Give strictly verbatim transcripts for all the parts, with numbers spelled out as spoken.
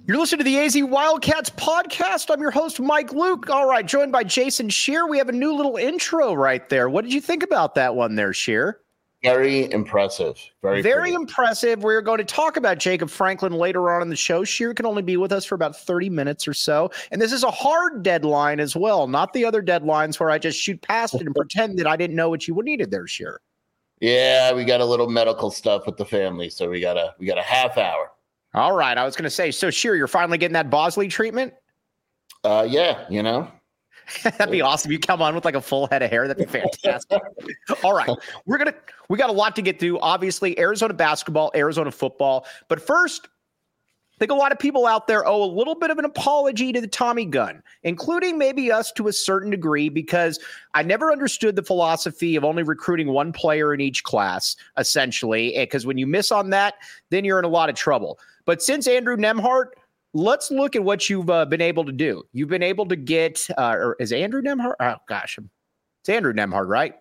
You're listening to the A Z Wildcats podcast. I'm your host, Mike Luke. All right, joined by Jason Scheer. We have a new little intro right there. What did you think about that one there, Scheer? Very impressive. Very, Very impressive. We're going to talk about Jacob Franklin later on in the show. Scheer can only be with us for about thirty minutes or so. And this is a hard deadline as well, not the other deadlines where I just shoot past it and pretend that I didn't know what you needed there, Scheer. Yeah, we got a little medical stuff with the family, so we got a we got a half hour. All right. I was going to say, so Scheer, you're finally getting that Bosley treatment? Uh, yeah, you know. That'd be awesome. You come on with like a full head of hair. That'd be fantastic. All right. We're going to, we got a lot to get through. Obviously, Arizona basketball, Arizona football. But first, I think a lot of people out there owe a little bit of an apology to the Tommy Gun, including maybe us to a certain degree, because I never understood the philosophy of only recruiting one player in each class, essentially, because when you miss on that, then you're in a lot of trouble. But since Andrew Nembhard, let's look at what you've uh, been able to do. You've been able to get, uh, or is Andrew Nembhard? Oh, gosh. It's Andrew Nembhard, right?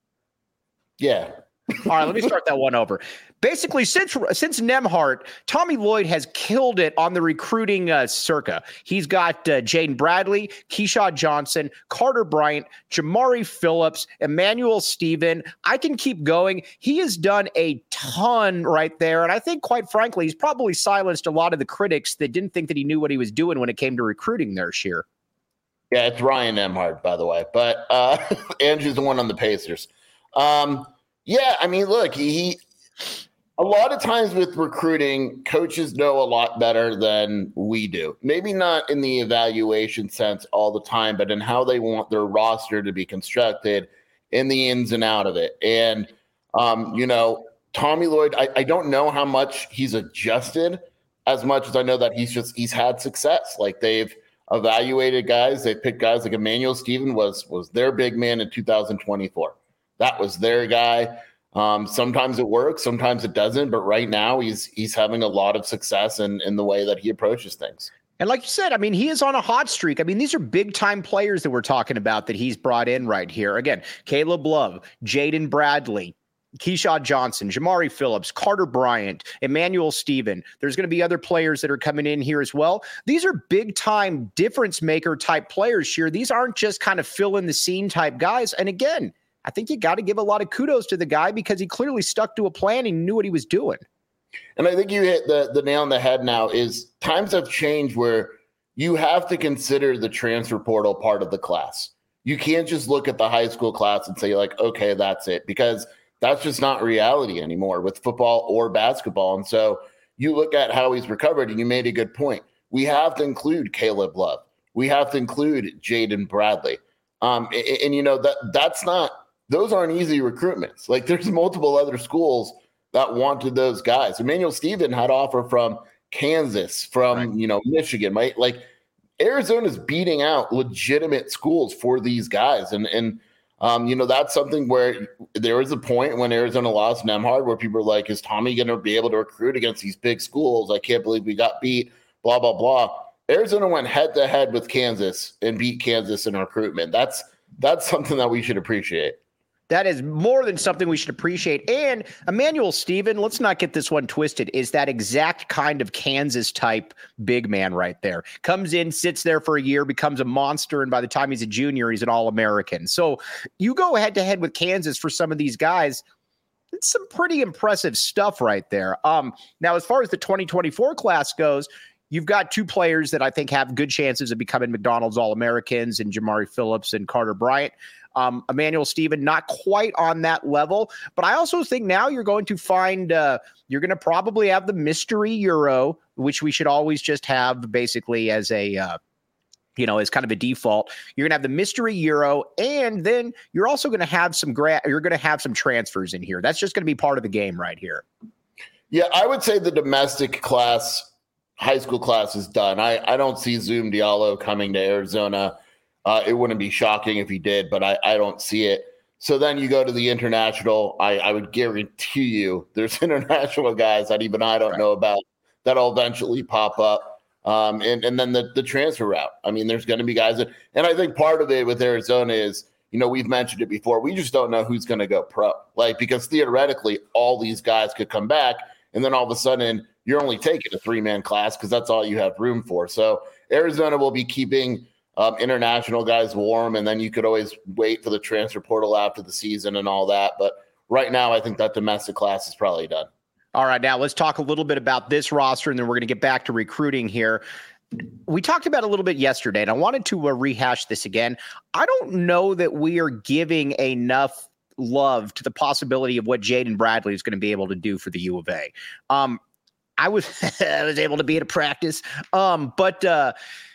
Yeah. All right, let me start that one over. Basically, since since Nembhard, Tommy Lloyd has killed it on the recruiting uh, circa. He's got uh, Jaden Bradley, Keyshawn Johnson, Carter Bryant, Jamari Phillips, Emmanuel Stephen. I can keep going. He has done a ton right there, and I think, quite frankly, he's probably silenced a lot of the critics that didn't think that he knew what he was doing when it came to recruiting there, Scheer. Yeah, it's Ryan Nembhard, by the way, but uh, Andrew's the one on the Pacers. Um, yeah, I mean, look, he, he a lot of times with recruiting, coaches know a lot better than we do. Maybe not in the evaluation sense all the time, but in how they want their roster to be constructed, in the ins and out of it. And, um, you know, Tommy Lloyd, I, I don't know how much he's adjusted as much as I know that he's just he's had success. Like, they've evaluated guys. They picked guys like Emmanuel Stephen was was their big man in two thousand twenty-four. That was their guy. Um, sometimes it works, sometimes it doesn't. But right now, he's he's having a lot of success in, in the way that he approaches things. And like you said, I mean, he is on a hot streak. I mean, these are big-time players that we're talking about that he's brought in right here. Again, Caleb Love, Jaden Bradley, Keyshawn Johnson, Jamari Phillips, Carter Bryant, Emmanuel Stephen. There's going to be other players that are coming in here as well. These are big-time difference-maker type players here. These aren't just kind of fill-in-the-scene type guys. And again, I think you got to give a lot of kudos to the guy because he clearly stuck to a plan and knew what he was doing. And I think you hit the, the nail on the head now is times have changed where you have to consider the transfer portal part of the class. You can't just look at the high school class and say, like, okay, that's it, because that's just not reality anymore with football or basketball. And so you look at how he's recovered, and you made a good point. We have to include Caleb Love. We have to include Jaden Bradley. Um, and, and, you know, that that's not – those aren't easy recruitments. Like, there's multiple other schools that wanted those guys. Emmanuel Stephen had offer from Kansas, from, right. you know, Michigan, right? Like, Arizona's beating out legitimate schools for these guys. And, and um, you know, that's something where there was a point when Arizona lost Nembhard where people were like, is Tommy going to be able to recruit against these big schools? I can't believe we got beat, blah, blah, blah. Arizona went head-to-head with Kansas and beat Kansas in recruitment. That's that's something that we should appreciate. That is more than something we should appreciate. And Emmanuel Stephen, let's not get this one twisted, is that exact kind of Kansas-type big man right there. Comes in, sits there for a year, becomes a monster, and by the time he's a junior, he's an All-American. So you go head-to-head with Kansas for some of these guys, it's some pretty impressive stuff right there. Um, now, as far as the twenty twenty-four class goes, you've got two players that I think have good chances of becoming McDonald's All-Americans, and Jamari Phillips and Carter Bryant. Um, Emmanuel Stephen, not quite on that level, but I also think now you're going to find, uh, you're going to probably have the mystery Euro, which we should always just have basically as a, uh, you know, as kind of a default. You're going to have the mystery Euro, and then you're also going to have some, gra- you're going to have some transfers in here. That's just going to be part of the game right here. Yeah, I would say the domestic class, high school class is done. I, I don't see Zoom Diallo coming to Arizona. Uh, it wouldn't be shocking if he did, but I, I don't see it. So then you go to the international. I, I would guarantee you there's international guys that even I don't right. know about that'll eventually pop up. Um, and, and then the, the transfer route. I mean, there's going to be guys that, and I think part of it with Arizona is, you know, we've mentioned it before. We just don't know who's going to go pro. Like, because theoretically, all these guys could come back, and then all of a sudden, you're only taking a three-man class because that's all you have room for. So Arizona will be keeping um, international guys warm, and then you could always wait for the transfer portal after the season and all that. But right now, I think that domestic class is probably done. All right, now let's talk a little bit about this roster, and then we're going to get back to recruiting here. We talked about it a little bit yesterday, and I wanted to uh, rehash this again. I don't know that we are giving enough love to the possibility of what Jaden Bradley is going to be able to do for the U of A. Um, I was I was able to be at a practice, um, but uh,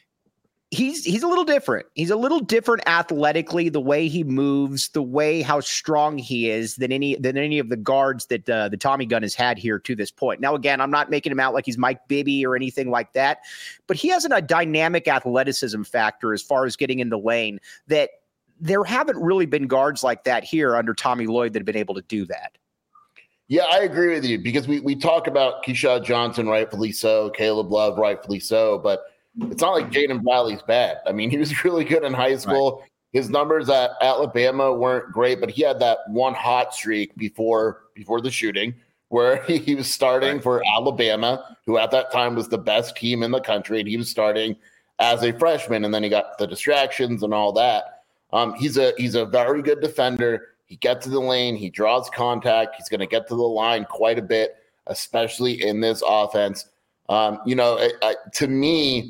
he's he's a little different. He's a little different athletically, the way he moves, the way how strong he is than any than any of the guards that uh, the Tommy Gun has had here to this point. Now, again, I'm not making him out like he's Mike Bibby or anything like that, but he has an, a dynamic athleticism factor as far as getting in the lane that there haven't really been guards like that here under Tommy Lloyd that have been able to do that. Yeah, I agree with you because we, we talk about Keyshawn Johnson, rightfully so, Caleb Love, rightfully so, but it's not like Jaden Bradley's bad. I mean, he was really good in high school. Right. His numbers at Alabama weren't great, but he had that one hot streak before before the shooting where he, he was starting right. for Alabama, who at that time was the best team in the country, and he was starting as a freshman, and then he got the distractions and all that. Um, he's a he's a very good defender. He gets to the lane. He draws contact. He's going to get to the line quite a bit, especially in this offense. Um, you know, it, uh, to me,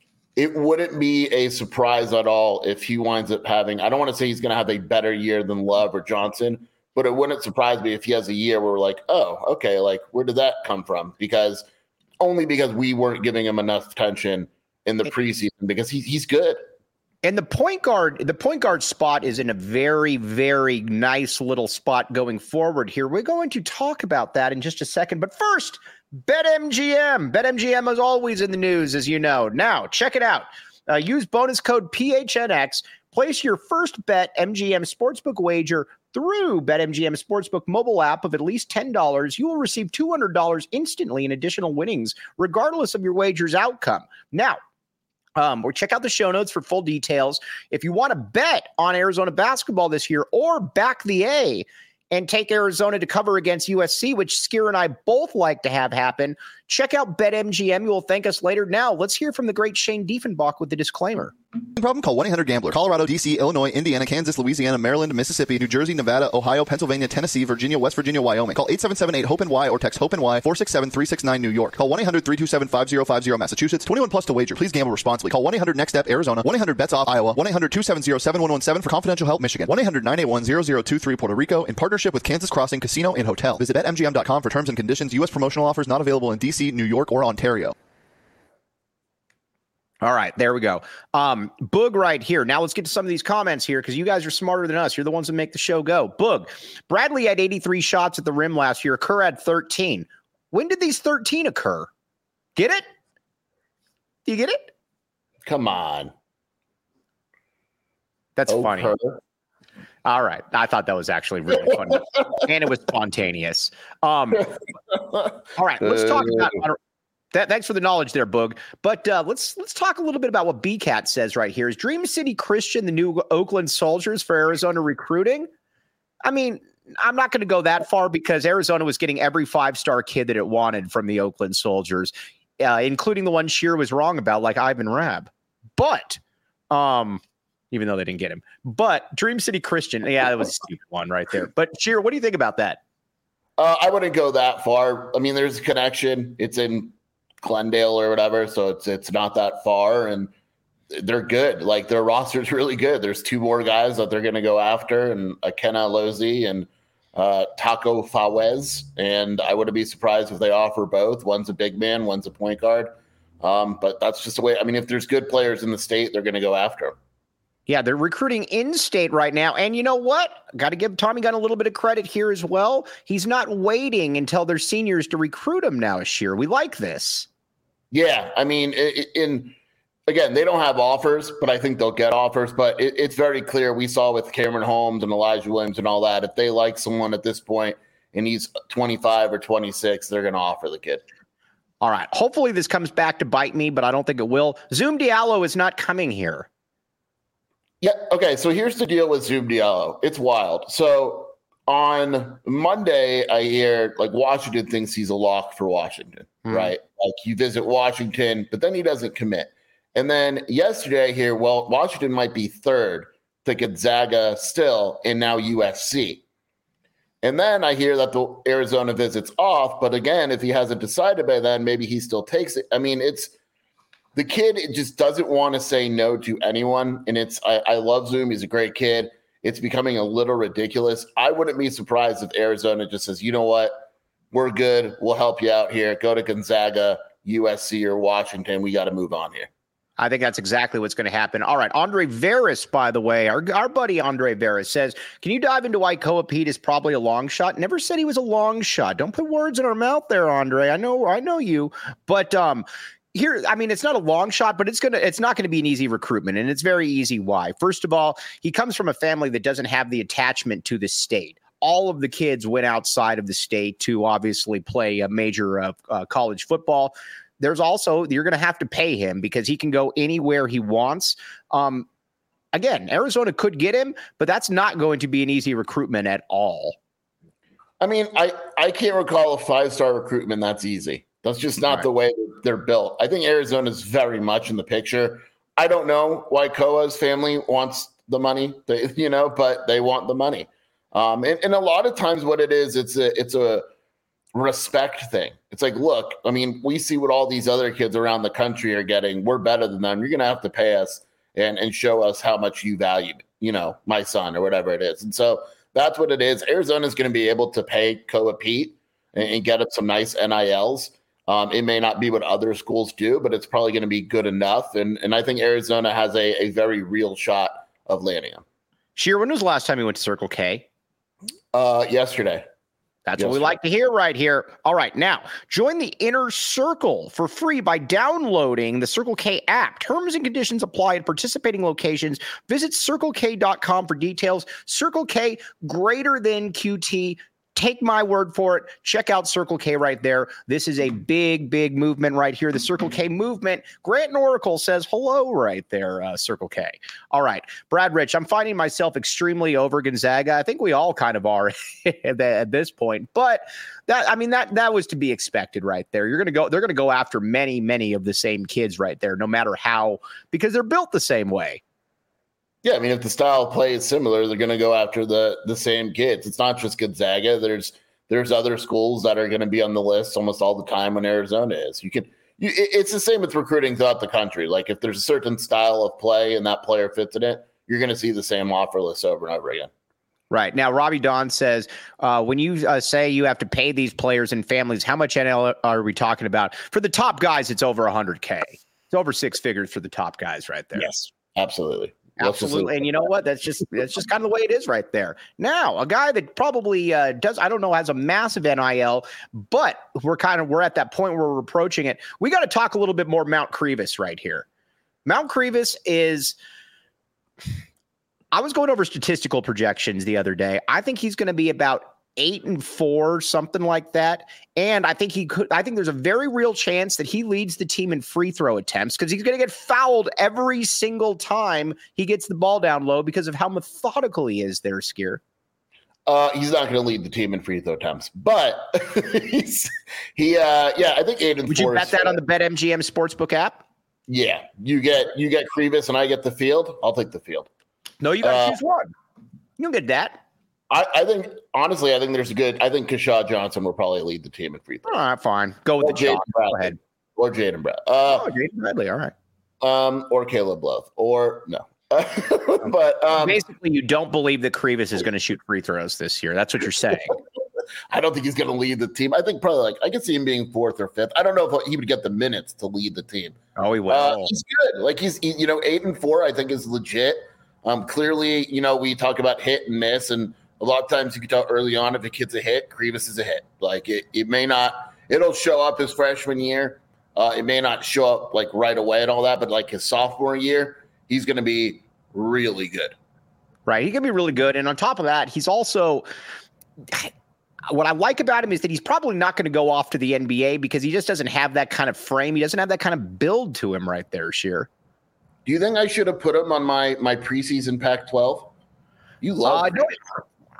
it wouldn't be a surprise at all if he winds up having – I don't want to say he's going to have a better year than Love or Johnson, but it wouldn't surprise me if he has a year where we're like, oh, okay, like where did that come from? Because only because we weren't giving him enough attention in the preseason because he, he's good. And the point guard, the point guard spot is in a very, very nice little spot going forward here. We're going to talk about that in just a second. But first, BetMGM. BetMGM is always in the news, as you know. Now, check it out. Uh, use bonus code P H N X. Place your first bet M G M Sportsbook wager through BetMGM Sportsbook mobile app of at least ten dollars. You will receive two hundred dollars instantly in additional winnings, regardless of your wager's outcome. Now, Um, or check out the show notes for full details. If you want to bet on Arizona basketball this year or back the A and take Arizona to cover against U S C, which Skier and I both like to have happen, check out BetMGM. You will thank us later. Now, let's hear from the great Shane Diefenbach with the disclaimer. Problem? Call one eight hundred gambler. Colorado, D C, Illinois, Indiana, Kansas, Louisiana, Maryland, Mississippi, New Jersey, Nevada, Ohio, Pennsylvania, Tennessee, Virginia, West Virginia, Wyoming. Call eight seven seven eight hope N Y or text HOPE-NY four six seven three six nine New York. Call one eight hundred three two seven five zero five zero Massachusetts. twenty-one plus to wager. Please gamble responsibly. Call one eight hundred next step Arizona. one eight hundred bets off Iowa. one eight hundred two seven zero seven one one seven for confidential help Michigan. one eight hundred nine eight one zero zero two three Puerto Rico in partnership with Kansas Crossing Casino and Hotel. Visit bet M G M dot com for terms and conditions. U S promotional offers not available in D C, New York, or Ontario. All right, there we go. Um, Boog right here. Now let's get to some of these comments here because you guys are smarter than us. You're the ones that make the show go. Boog, Bradley had eighty-three shots at the rim last year. Kerr had thirteen. When did these thirteen occur? Get it? Do you get it? Come on. That's oh, funny. Kerr. All right. I thought that was actually really funny. And it was spontaneous. Um, all right, let's talk about That, thanks for the knowledge there, Boog. But uh, let's let's talk a little bit about what B CAT says right here. Is Dream City Christian the new Oakland Soldiers for Arizona recruiting? I mean, I'm not going to go that far because Arizona was getting every five-star kid that it wanted from the Oakland Soldiers, uh, including the one Shear was wrong about, like Ivan Rabb. But, um, even though they didn't get him. But Dream City Christian, yeah, that was a stupid one right there. But Shear, what do you think about that? Uh, I wouldn't go that far. I mean, there's a connection. It's in Glendale or whatever, so it's it's not that far, and they're good. Like their roster's really good. There's two more guys that they're going to go after, and Akena Lozi and uh, Taco Fawez, and I wouldn't be surprised if they offer both. One's a big man, one's a point guard, um, but that's just the way. I mean, if there's good players in the state, they're going to go after them. Yeah, they're recruiting in-state right now. And you know what? Got to give Tommy Gunn a little bit of credit here as well. He's not waiting until they're seniors to recruit them now, Ashir. We like this. Yeah, I mean, in again, they don't have offers, but I think they'll get offers. But it, it's very clear. We saw with Cameron Holmes and Elijah Williams and all that. If they like someone at this point and he's twenty-five or twenty-six, they're going to offer the kid. All right. Hopefully this comes back to bite me, but I don't think it will. Zoom Diallo is not coming here. Yeah. Okay. So here's the deal with Zoom Diallo. It's wild. So on Monday, I hear like Washington thinks he's a lock for Washington, mm. right? Like you visit Washington, but then he doesn't commit. And then yesterday I hear, well, Washington might be third to Gonzaga still, and now U S C. And then I hear that the Arizona visit's off, but again, if he hasn't decided by then, maybe he still takes it. I mean, it's the kid it just doesn't want to say no to anyone. And it's I, I love Zoom. He's a great kid. It's becoming a little ridiculous. I wouldn't be surprised if Arizona just says, you know what, we're good. We'll help you out here. Go to Gonzaga, U S C, or Washington. We got to move on here. I think that's exactly what's going to happen. All right. Andre Veras, by the way, our, our buddy Andre Veras says, can you dive into why Koa Pete is probably a long shot? Never said he was a long shot. Don't put words in our mouth there, Andre. I know, I know you, but um, here, I mean, it's not a long shot, but it's going to, it's not going to be an easy recruitment. And it's very easy. Why? First of all, he comes from a family that doesn't have the attachment to the state. All of the kids went outside of the state to obviously play a major uh, uh, college football. There's also, you're going to have to pay him because he can go anywhere he wants. Um, again, Arizona could get him, but that's not going to be an easy recruitment at all. I mean, I, I can't recall a five-star recruitment that's easy. That's just not right. the way they're built. I think Arizona is very much in the picture. I don't know why Koa's family wants the money, they, you know, but they want the money. Um, and, and a lot of times what it is, it's a, it's a respect thing. It's like, look, I mean, we see what all these other kids around the country are getting. We're better than them. You're going to have to pay us and, and show us how much you value, you know, my son or whatever it is. And so that's what it is. Arizona is going to be able to pay Koa Pete and, and get up some nice N I Ls. Um, it may not be what other schools do, but it's probably going to be good enough. And, and I think Arizona has a, a very real shot of landing him. Sheer, when was the last time you went to Circle K? Uh, yesterday. That's yes, what we sir. like to hear right here. All right. Now, join the Inner Circle for free by downloading the Circle K app. Terms and conditions apply at participating locations. Visit circle k dot com for details. Circle K, greater than Q T. Take my word for it. Check out Circle K right there. This is a big, big movement right here. The Circle K movement. Grant and Oracle says hello right there, uh, Circle K. All right. Brad Rich, I'm finding myself extremely over Gonzaga. I think we all kind of are at, the, at this point. But that, I mean, that that was to be expected right there. You're going to go, they're going to go after many, many of the same kids right there, no matter how, because they're built the same way. Yeah, I mean, if the style of play is similar, they're going to go after the the same kids. It's not just Gonzaga. There's there's other schools that are going to be on the list almost all the time when Arizona is. You can, you, it's the same with recruiting throughout the country. Like if there's a certain style of play and that player fits in it, you're going to see the same offer list over and over again. Right. Now, Robbie Don says, uh, when you uh, say you have to pay these players and families, how much N L are we talking about? For the top guys, it's over one hundred K. It's over six figures for the top guys right there. Yes, absolutely. Absolutely. And you know what? That's just that's just kind of the way it is right there. Now, a guy that probably uh, does, I don't know, has a massive N I L, but we're kind of we're at that point where we're approaching it. We got to talk a little bit more Mount Crevis right here. Mount Crevis is I was going over statistical projections the other day. I think he's going to be about eight and four, something like that. And I think he could, I think there's a very real chance that he leads the team in free throw attempts because he's going to get fouled every single time he gets the ball down low because of how methodical he is there, Skier. Uh, he's not going to lead the team in free throw attempts, but he's, he, uh, yeah, I think eight and Would four. Would you bet that on the BetMGM Sportsbook app? Yeah, you get, you get Crevis and I get the field. I'll take the field. No, you got to uh, choose one. You don't get that. I, I think, honestly, I think there's a good, I think Keshad Johnson will probably lead the team in free throw. All right, fine. Go with or the Jaden Go ahead. Or Jaden Bradley. Uh, oh, Jaden Bradley. All right. Um, or Caleb Love. Or no. but um, basically, you don't believe that Crevis is going to shoot free throws this year. That's what you're saying. I don't think he's going to lead the team. I think probably like I could see him being fourth or fifth. I don't know if he would get the minutes to lead the team. Oh, he will. Uh, he's good. Like he's, he, you know, eight and four, I think is legit. Um, clearly, you know, we talk about hit and miss, and a lot of times you can tell early on if a kid's a hit, Crevis is a hit. Like it, it may not, it'll show up his freshman year. Uh, it may not show up like right away and all that, but like his sophomore year, he's going to be really good. Right. He can be really good. And on top of that, he's also, what I like about him is that he's probably not going to go off to the N B A because he just doesn't have that kind of frame. He doesn't have that kind of build to him right there, Sheer. Do you think I should have put him on my, my preseason Pac twelve? You love uh, no,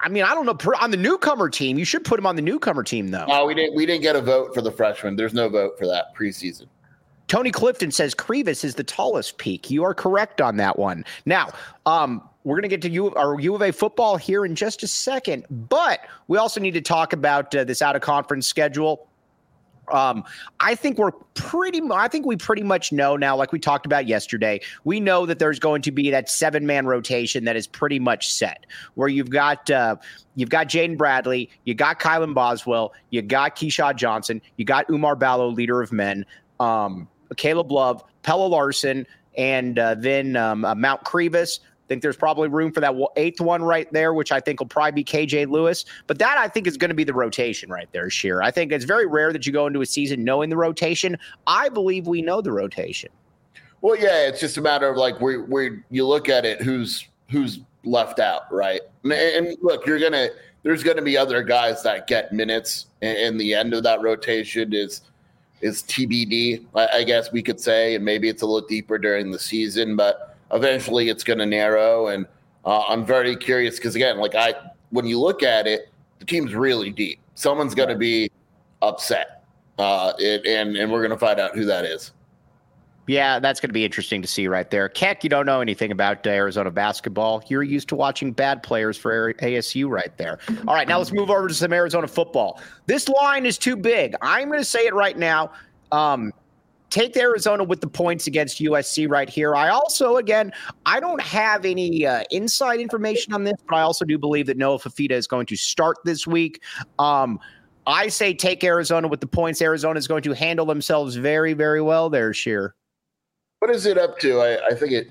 I mean, I don't know. On the newcomer team, you should put him on the newcomer team, though. No, we didn't. We didn't get a vote for the freshman. There's no vote for that preseason. Tony Clifton says Krivas is the tallest peak. You are correct on that one. Now, um, we're going to get to U, our U of A football here in just a second, but we also need to talk about uh, this out-of-conference schedule. Um, I think we're pretty, I think we pretty much know now, like we talked about yesterday, we know that there's going to be that seven man rotation that is pretty much set, where you've got, uh, you've got Jaden Bradley, you got Kylan Boswell, you got Keyshawn Johnson, you got Umar Ballo, leader of men, um, Caleb Love, Pella Larson, and uh, then um, uh, Mount Krivas. I think there's probably room for that eighth one right there, which I think will probably be K J Lewis. But that, I think, is going to be the rotation right there, Sheer. I think it's very rare that you go into a season knowing the rotation. I believe we know the rotation. Well, yeah, it's just a matter of like where where you look at it, who's who's left out, right? And, and look, you're gonna there's going to be other guys that get minutes, and, and the end of that rotation is is T B D, I, I guess we could say, and maybe it's a little deeper during the season, but eventually it's going to narrow. And uh, I'm very curious because, again, like I, when you look at it, the team's really deep. Someone's going to be upset, uh, it, and, and we're going to find out who that is. Yeah, that's going to be interesting to see right there. Keck, you don't know anything about Arizona basketball. You're used to watching bad players for A S U right there. All right, now let's move over to some Arizona football. This line is too big. I'm going to say it right now. Um, Take Arizona with the points against U S C right here. I also, again, I don't have any uh, inside information on this, but I also do believe that Noah Fafita is going to start this week. Um, I say take Arizona with the points. Arizona is going to handle themselves very, very well there, Sheer. What is it up to? I, I think it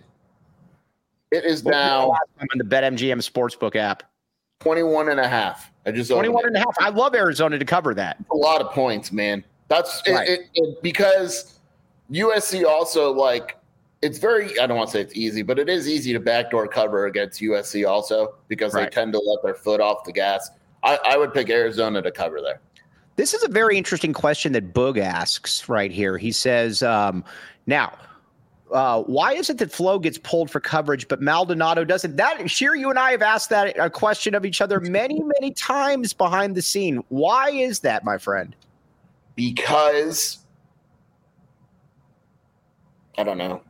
it is now on the BetMGM Sportsbook app. twenty-one and a half. I just twenty-one and a half. I love Arizona to cover that. A lot of points, man. That's right. it, it, it, because U S C also, like, it's very, I don't want to say it's easy, but it is easy to backdoor cover against U S C also because right. they tend to let their foot off the gas. I, I would pick Arizona to cover there. This is a very interesting question that Boog asks right here. He says, um, now, uh, why is it that Flo gets pulled for coverage, but Maldonado doesn't? That Sheer, you and I have asked that a question of each other many, many times behind the scene. Why is that, my friend? Because I don't know.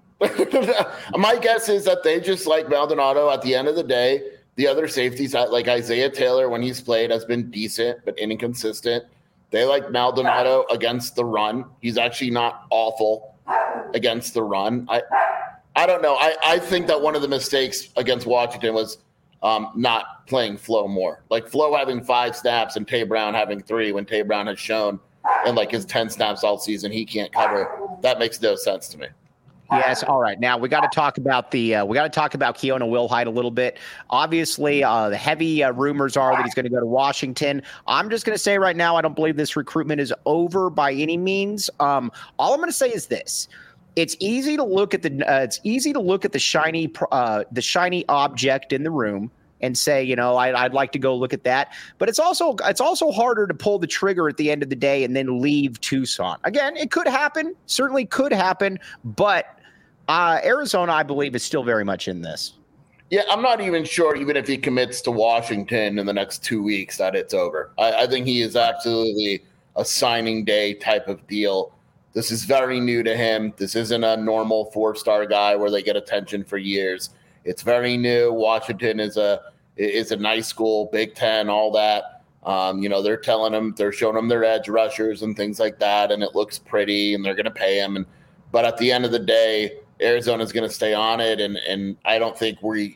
My guess is that they just like Maldonado. At the end of the day, the other safeties, like Isaiah Taylor, when he's played, has been decent but inconsistent. They like Maldonado against the run. He's actually not awful against the run. I I don't know. I, I think that one of the mistakes against Washington was um, not playing Flo more. Like Flo having five snaps and Tay Brown having three when Tay Brown has shown in like his ten snaps all season he can't cover. That makes no sense to me. Yes. All right. Now we got to talk about the uh, we got to talk about Keona Wilhite a little bit. Obviously, uh, the heavy uh, rumors are that he's going to go to Washington. I'm just going to say right now, I don't believe this recruitment is over by any means. Um, all I'm going to say is this: it's easy to look at the uh, it's easy to look at the shiny uh, the shiny object in the room and say, you know, I, I'd like to go look at that. But it's also it's also harder to pull the trigger at the end of the day and then leave Tucson. Again, it could happen, certainly could happen, but uh, Arizona, I believe, is still very much in this. Yeah, I'm not even sure, even if he commits to Washington in the next two weeks, that it's over. I, I think he is absolutely a signing day type of deal. This is very new to him. This isn't a normal four-star guy where they get attention for years. It's very new. Washington is a is a nice school, Big Ten, all that. Um, you know, they're telling them, they're showing them their edge rushers and things like that, and it looks pretty, and they're going to pay him. And but at the end of the day, Arizona's going to stay on it, and and I don't think we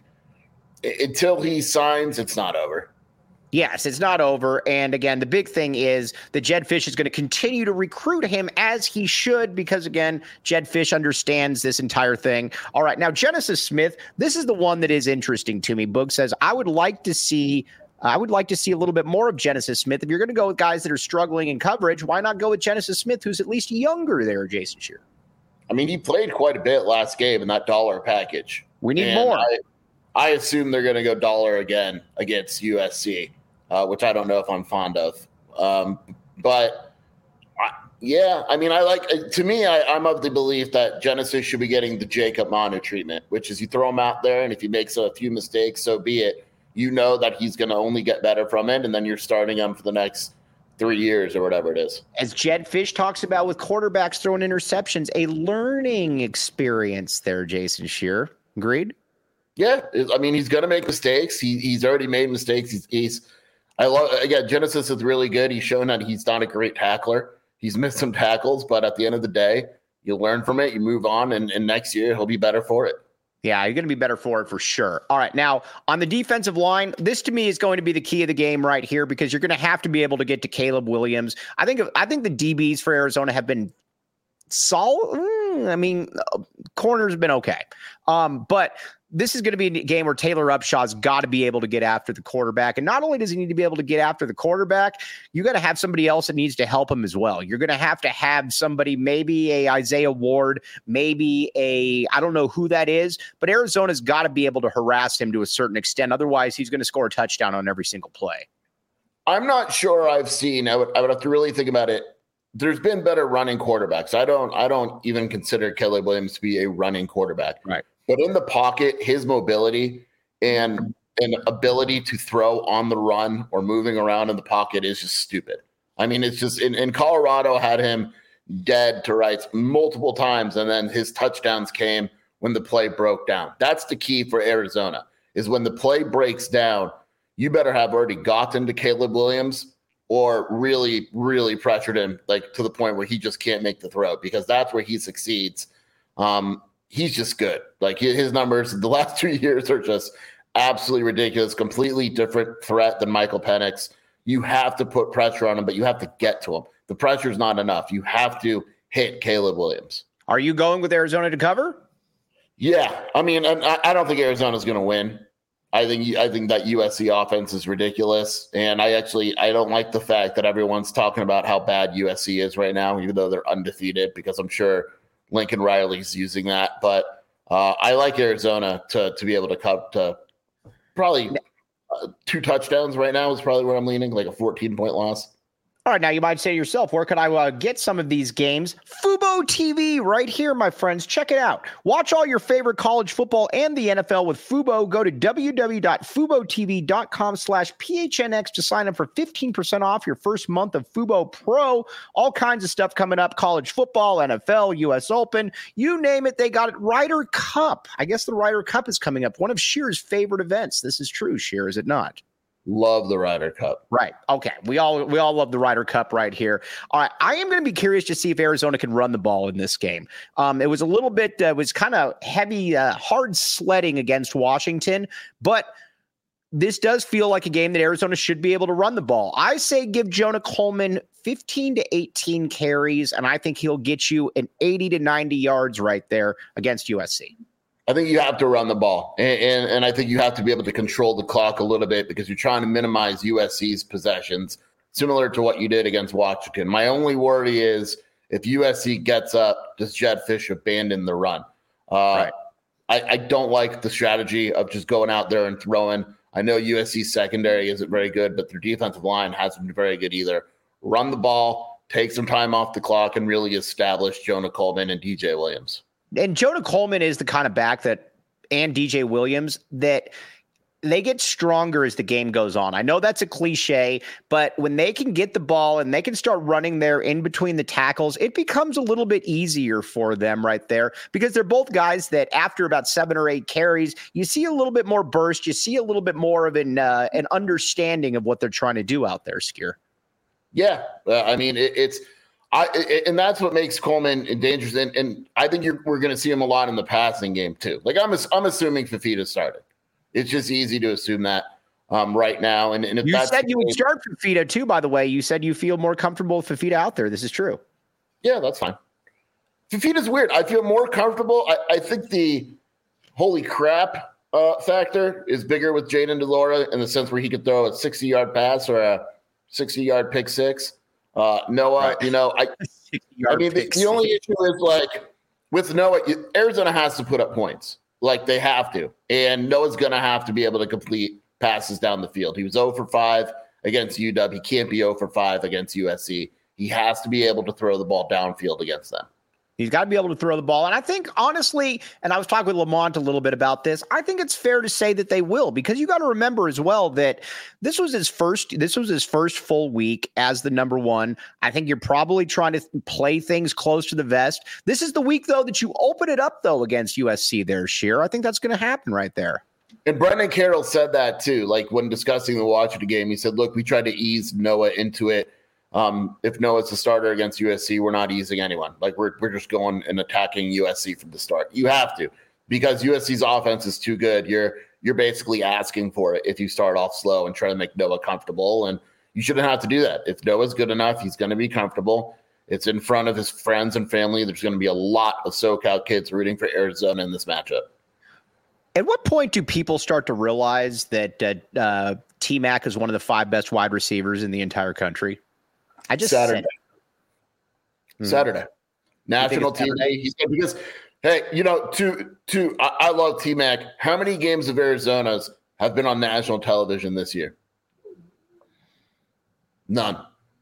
until he signs, it's not over. Yes, it's not over. And again, the big thing is that Jedd Fisch is going to continue to recruit him as he should, because again, Jedd Fisch understands this entire thing. All right. Now, Genesis Smith, this is the one that is interesting to me. Boog says, I would like to see, I would like to see a little bit more of Genesis Smith. If you're going to go with guys that are struggling in coverage, why not go with Genesis Smith, who's at least younger there, Jason Shear? I mean, he played quite a bit last game in that dollar package. We need and more. I, I assume they're going to go dollar again against U S C. Uh, which I don't know if I'm fond of. Um, but, I, yeah, I mean, I like – to me, I, I'm of the belief that Genesis should be getting the Jacob Manu treatment, which is you throw him out there, and if he makes a few mistakes, so be it. you know that he's going to only get better from it, and then you're starting him for the next three years or whatever it is. As Jed Fish talks about with quarterbacks throwing interceptions, a learning experience there, Jason Scheer. Agreed? Yeah. I mean, he's going to make mistakes. He, he's already made mistakes. He's, he's I love, again, Genesis is really good. He's shown that he's not a great tackler. He's missed some tackles, but at the end of the day, you learn from it, you move on, and, and next year he'll be better for it. Yeah, you're going to be better for it for sure. All right, now on the defensive line, this to me is going to be the key of the game right here because you're going to have to be able to get to Caleb Williams. I think I think the D Bs for Arizona have been solid. I mean, corner's been okay, um, but this is going to be a game where Taylor Upshaw's got to be able to get after the quarterback. And not only does he need to be able to get after the quarterback, you got to have somebody else that needs to help him as well. You're going to have to have somebody, maybe a Isaiah Ward, maybe a, I don't know who that is, but Arizona's got to be able to harass him to a certain extent. Otherwise, he's going to score a touchdown on every single play. I'm not sure I've seen, I would, I would have to really think about it. There's been better running quarterbacks. I don't, I don't even consider Caleb Williams to be a running quarterback. Right. But in the pocket, his mobility and and ability to throw on the run or moving around in the pocket is just stupid. I mean, it's just in, in Colorado had him dead to rights multiple times, and then his touchdowns came when the play broke down. That's the key for Arizona, is when the play breaks down, you better have already gotten to Caleb Williams or really, really pressured him like to the point where he just can't make the throw, because that's where he succeeds. Um, He's just good. Like his numbers the last two years are just absolutely ridiculous. Completely different threat than Michael Penix. You have to put pressure on him, but you have to get to him. The pressure is not enough. You have to hit Caleb Williams. Are you going with Arizona to cover? Yeah, I mean, I, I don't think Arizona's going to win. I think I think that U S C offense is ridiculous, and I actually I don't like the fact that everyone's talking about how bad U S C is right now, even though they're undefeated, because I'm sure Lincoln Riley's using that, but uh, I like Arizona to to be able to cut to probably uh, two touchdowns right now is probably where I'm leaning, like a fourteen point loss. All right, now you might say to yourself, where could I uh, get some of these games? Fubo T V right here, my friends. Check it out. Watch all your favorite college football and the N F L with Fubo. Go to www.fubotv.com slash PHNX to sign up for fifteen percent off your first month of Fubo Pro. All kinds of stuff coming up. College football, N F L, U S Open. You name it, they got it. Ryder Cup. I guess the Ryder Cup is coming up. One of Scheer's favorite events. This is true, Scheer, is it not? Love the Ryder Cup. Right. Okay. We all we all love the Ryder Cup right here. All right. I am going to be curious to see if Arizona can run the ball in this game. Um, it was a little bit, uh, it was kind of heavy, uh, hard sledding against Washington, but this does feel like a game that Arizona should be able to run the ball. I say give Jonah Coleman fifteen to eighteen carries, and I think he'll get you an eighty to ninety yards right there against U S C. I think you have to run the ball, and, and, and I think you have to be able to control the clock a little bit because you're trying to minimize U S C's possessions, similar to what you did against Washington. My only worry is if U S C gets up, does Jed Fish abandon the run? Uh, right. I, I don't like the strategy of just going out there and throwing. I know U S C's secondary isn't very good, but their defensive line hasn't been very good either. Run the ball, take some time off the clock, and really establish Jonah Coleman and D J Williams. And Jonah Coleman is the kind of back that, and D J Williams, that they get stronger as the game goes on. I know that's a cliche, but when they can get the ball and they can start running there in between the tackles, it becomes a little bit easier for them right there, because they're both guys that after about seven or eight carries, you see a little bit more burst. You see a little bit more of an, uh, an understanding of what they're trying to do out there, Scheer. Yeah. Uh, I mean, it, it's, I, and that's what makes Coleman dangerous. And, and I think you're, we're going to see him a lot in the passing game too. Like I'm, I'm assuming Fifita started. It's just easy to assume that um, right now. And, and if you that's said you would start Fifita too, by the way. You said you feel more comfortable with Fifita out there. This is true. Yeah, that's fine. Fifita's weird. I feel more comfortable. I, I think the holy crap uh, factor is bigger with Jayden de Laura in the sense where he could throw a sixty-yard pass or a sixty-yard pick six. Uh, Noah, right. you know, I, I mean, the, the only issue is like with Noah, Arizona has to put up points. Like they have to. And Noah's going to have to be able to complete passes down the field. He was zero for five against U W. He can't be zero for five against U S C. He has to be able to throw the ball downfield against them. He's got to be able to throw the ball. And I think, honestly, and I was talking with Lamont a little bit about this, I think it's fair to say that they will, because you got to remember as well that this was his first, this was his first full week as the number one. I think you're probably trying to play things close to the vest. This is the week, though, that you open it up, though, against U S C there, Sheer. I think that's going to happen right there. And Brendan Carroll said that, too. Like, when discussing the Washington game, he said, look, we tried to ease Noah into it. Um, if Noah's the starter against U S C, we're not easing anyone. Like, we're we're just going and attacking U S C from the start. You have to, because U S C's offense is too good. You're you're basically asking for it if you start off slow and try to make Noah comfortable. And you shouldn't have to do that. If Noah's good enough, he's going to be comfortable. It's in front of his friends and family. There's going to be a lot of SoCal kids rooting for Arizona in this matchup. At what point do people start to realize that uh, uh, T-Mac is one of the five best wide receivers in the entire country? I just Saturday. Said Saturday. National team day. He said, because, hey, you know, to to I, I love T-Mac. How many games of Arizona's have been on national television this year? None.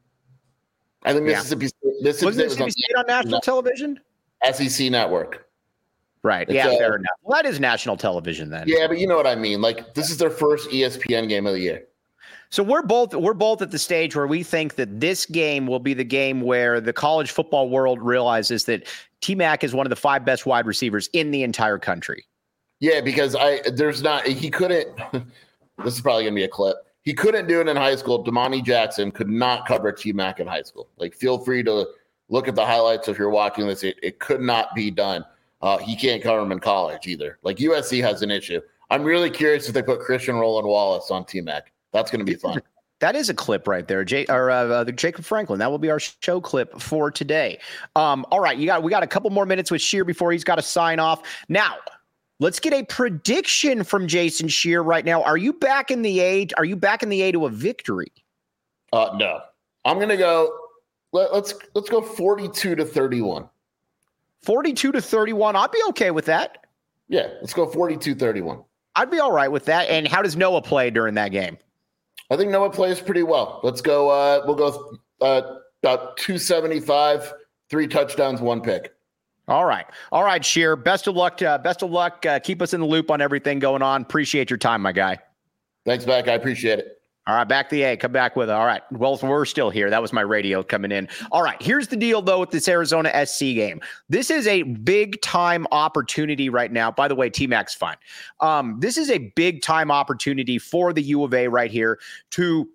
I think Mississippi State, Mississippi was State Mississippi was on, State on national television? S E C Network. Right. It's yeah, a, fair enough. Well, that is national television then. Yeah, but you know what I mean. Like, this is their first E S P N game of the year. So we're both we're both at the stage where we think that this game will be the game where the college football world realizes that T-Mac is one of the five best wide receivers in the entire country. Yeah, because I there's not he couldn't. This is probably gonna be a clip. He couldn't do it in high school. Damani Jackson could not cover T-Mac in high school. Like, feel free to look at the highlights if you're watching this. It, it could not be done. Uh, he can't cover him in college either. Like, U S C has an issue. I'm really curious if they put Christian Roland Wallace on T-Mac. That's going to be fun. That is a clip right there, Jay, or uh, uh, the Jacob Franklin. That will be our show clip for today. Um, all right, you got we got a couple more minutes with Sheer before he's got to sign off. Now, let's get a prediction from Jason Sheer right now. Are you back in the A? Are you back in the A to a victory? Uh, no, I'm going to go. Let, let's let's go forty-two to thirty-one. forty-two to thirty-one. I'd be okay with that. Yeah, let's go forty-two thirty-one. I'd be all right with that. And how does Noah play during that game? I think Noah plays pretty well. Let's go. Uh, we'll go uh, about two seventy-five, three touchdowns, one pick. All right. All right, Sheer. Best of luck. Uh, best of luck. Uh, keep us in the loop on everything going on. Appreciate your time, my guy. Thanks, Mac. I appreciate it. All right, back to the A. Come back with it. All right. Well, we're still here. That was my radio coming in. All right. Here's the deal, though, with this Arizona S C game. This is a big-time opportunity right now. By the way, T-Mac's fine. Um, this is a big-time opportunity for the U of A right here to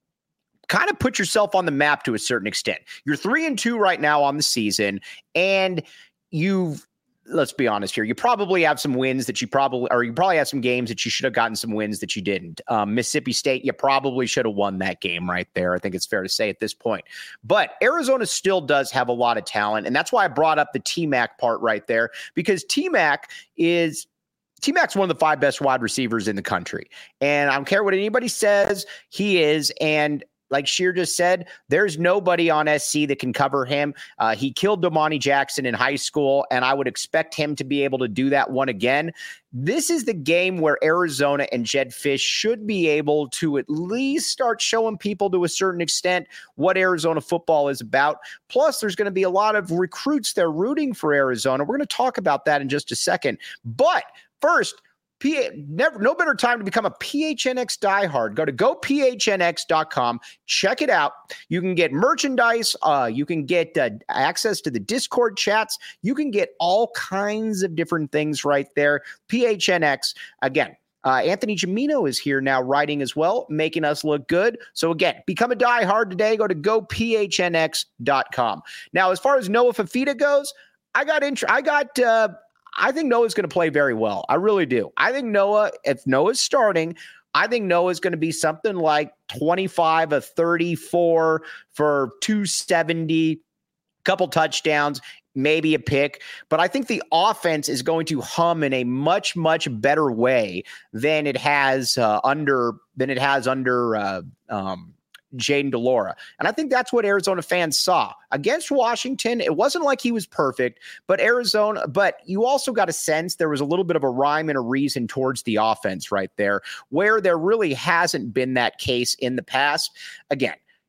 kind of put yourself on the map to a certain extent. You're three and two right now on the season, and you've let's be honest here. You probably have some wins that you probably, or you probably have some games that you should have gotten some wins that you didn't. Um, Mississippi State, you probably should have won that game right there. I think it's fair to say at this point. But Arizona still does have a lot of talent. And that's why I brought up the T-Mac part right there, because T-Mac is T-Mac's one of the five best wide receivers in the country. And I don't care what anybody says, he is. And like Sheer just said, there's nobody on S C that can cover him. Uh, he killed Damani Jackson in high school, and I would expect him to be able to do that one again. This is the game where Arizona and Jedd Fisch should be able to at least start showing people to a certain extent what Arizona football is about. Plus, there's going to be a lot of recruits there rooting for Arizona. We're going to talk about that in just a second. But first, P- never, no better time to become a P H N X diehard. Go to go P H N X dot com. Check it out. You can get merchandise. Uh, you can get uh, access to the Discord chats. You can get all kinds of different things right there. P H N X, again. Uh, Anthony Gimino is here now writing as well, making us look good. So again, become a diehard today. Go to go P H N X dot com. Now, as far as Noah Fifita goes, I got int- I got. Uh, I think Noah's going to play very well. I really do. I think Noah, if Noah's starting, I think Noah's going to be something like twenty-five of thirty-four for two seventy, couple touchdowns, maybe a pick. But I think the offense is going to hum in a much, much better way than it has uh, under than it has under uh, um, Jayden de Laura. And I think that's what Arizona fans saw against Washington. It wasn't like he was perfect, but Arizona, but you also got a sense there was a little bit of a rhyme and a reason towards the offense right there, where there really hasn't been that case in the past. Again,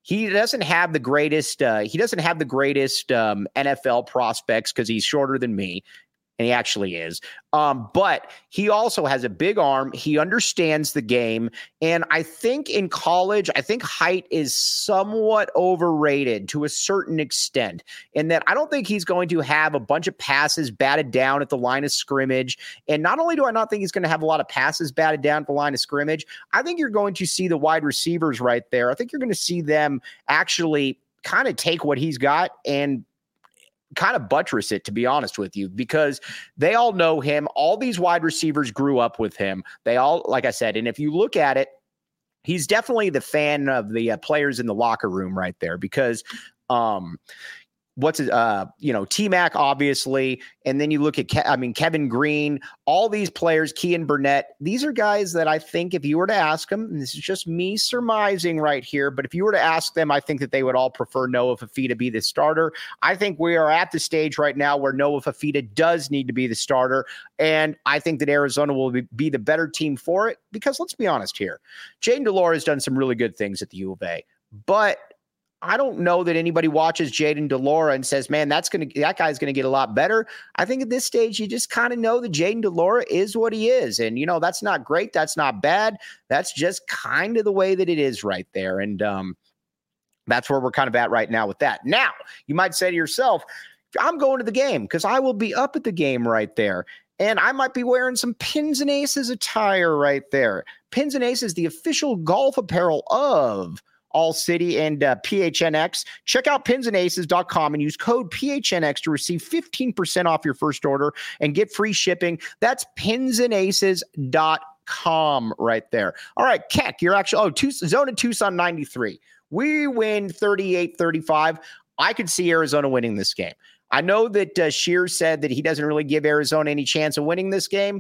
he doesn't have the greatest. Uh, he doesn't have the greatest um, N F L prospects because he's shorter than me. And he actually is. Um, but he also has a big arm. He understands the game. And I think in college, I think height is somewhat overrated to a certain extent, in that I don't think he's going to have a bunch of passes batted down at the line of scrimmage. And not only do I not think he's going to have a lot of passes batted down at the line of scrimmage, I think you're going to see the wide receivers right there. I think you're going to see them actually kind of take what he's got and kind of buttress it, to be honest with you, because they all know him. All these wide receivers grew up with him. They all, like I said, and if you look at it, he's definitely the fan of the uh, players in the locker room right there, because um, what's it, uh, you know, T-Mac, obviously. And then you look at, Ke- I mean, Kevin Green, all these players, Kean Burnett. These are guys that I think if you were to ask them, and this is just me surmising right here, but if you were to ask them, I think that they would all prefer Noah Fifita be the starter. I think we are at the stage right now where Noah Fifita does need to be the starter. And I think that Arizona will be, be the better team for it, because let's be honest here. Jayden de Laura has done some really good things at the U of A, but I don't know that anybody watches Jayden de Laura and says, man, that's going to, that guy's going to get a lot better. I think at this stage, you just kind of know that Jayden de Laura is what he is. And, you know, that's not great. That's not bad. That's just kind of the way that it is right there. And um, that's where we're kind of at right now with that. Now, you might say to yourself, I'm going to the game because I will be up at the game right there. And I might be wearing some Pins and Aces attire right there. Pins and Aces, the official golf apparel of All City and uh, P H N X. Check out pins and aces dot com and use code P H N X to receive fifteen percent off your first order and get free shipping. That's pins and aces dot com right there. All right, Keck, you're actually, oh, two, Zone of Tucson ninety-three. We win thirty-eight thirty-five. I could see Arizona winning this game. I know that uh, Shear said that he doesn't really give Arizona any chance of winning this game.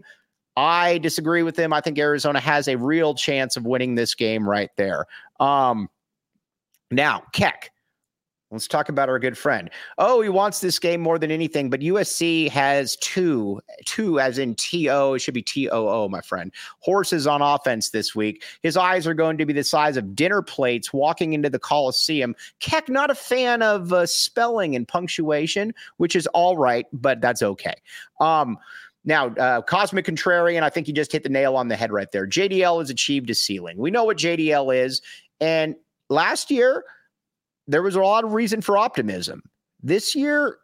I disagree with him. I think Arizona has a real chance of winning this game right there. Um, Now, Keck, let's talk about our good friend. Oh, he wants this game more than anything, but U S C has two, two as in T O, it should be T O O, my friend, horses on offense this week. His eyes are going to be the size of dinner plates walking into the Coliseum. Keck, not a fan of uh, spelling and punctuation, which is all right, but that's okay. Um, Now, uh, Cosmic Contrarian, I think you just hit the nail on the head right there. J D L has achieved a ceiling. We know what J D L is, and last year, there was a lot of reason for optimism. This year,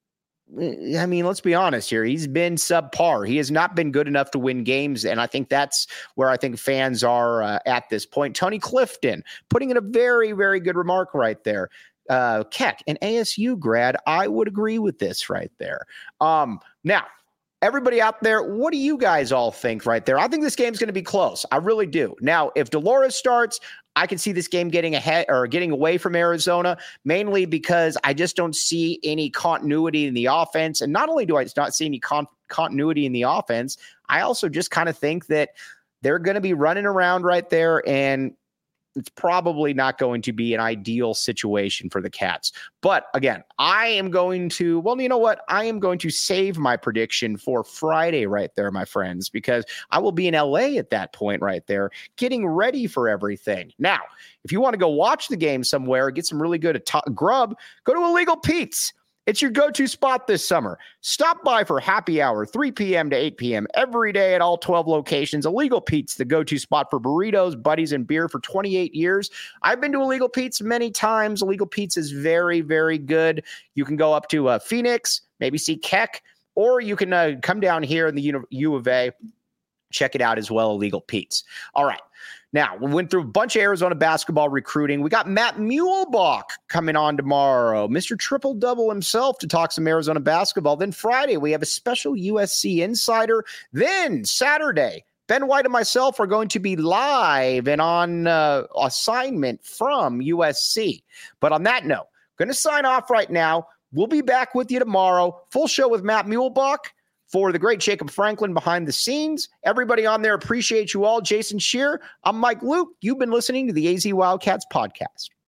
I mean, let's be honest here. He's been subpar. He has not been good enough to win games, and I think that's where I think fans are uh, at this point. Tony Clifton putting in a very, very good remark right there. Uh, Keck, an A S U grad, I would agree with this right there. Um, now, everybody out there, what do you guys all think right there? I think this game's going to be close. I really do. Now, if de Laura starts, I can see this game getting ahead or getting away from Arizona, mainly because I just don't see any continuity in the offense. And not only do I not see any con- continuity in the offense, I also just kind of think that they're going to be running around right there, and it's probably not going to be an ideal situation for the Cats. But again, I am going to, well, you know what? I am going to save my prediction for Friday right there, my friends, because I will be in L A at that point right there, getting ready for everything. Now, if you want to go watch the game somewhere, get some really good at- grub, go to Illegal Pete's. It's your go-to spot this summer. Stop by for happy hour, three p.m. to eight p.m. every day at all twelve locations. Illegal Pete's, the go-to spot for burritos, buddies, and beer for twenty-eight years. I've been to Illegal Pete's many times. Illegal Pete's is very, very good. You can go up to uh, Phoenix, maybe see Keck, or you can uh, come down here in the U, U of A. Check it out as well, Illegal Pete's. All right. Now, we went through a bunch of Arizona basketball recruiting. We got Matt Muehlbach coming on tomorrow, Mister Triple-Double himself, to talk some Arizona basketball. Then Friday, we have a special U S C insider. Then Saturday, Ben White and myself are going to be live and on uh, assignment from U S C. But on that note, going to sign off right now. We'll be back with you tomorrow. Full show with Matt Muehlbach. For the great Jacob Franklin behind the scenes, everybody on there, appreciate you all. Jason Shear, I'm Mike Luke. You've been listening to the A Z Wildcats podcast.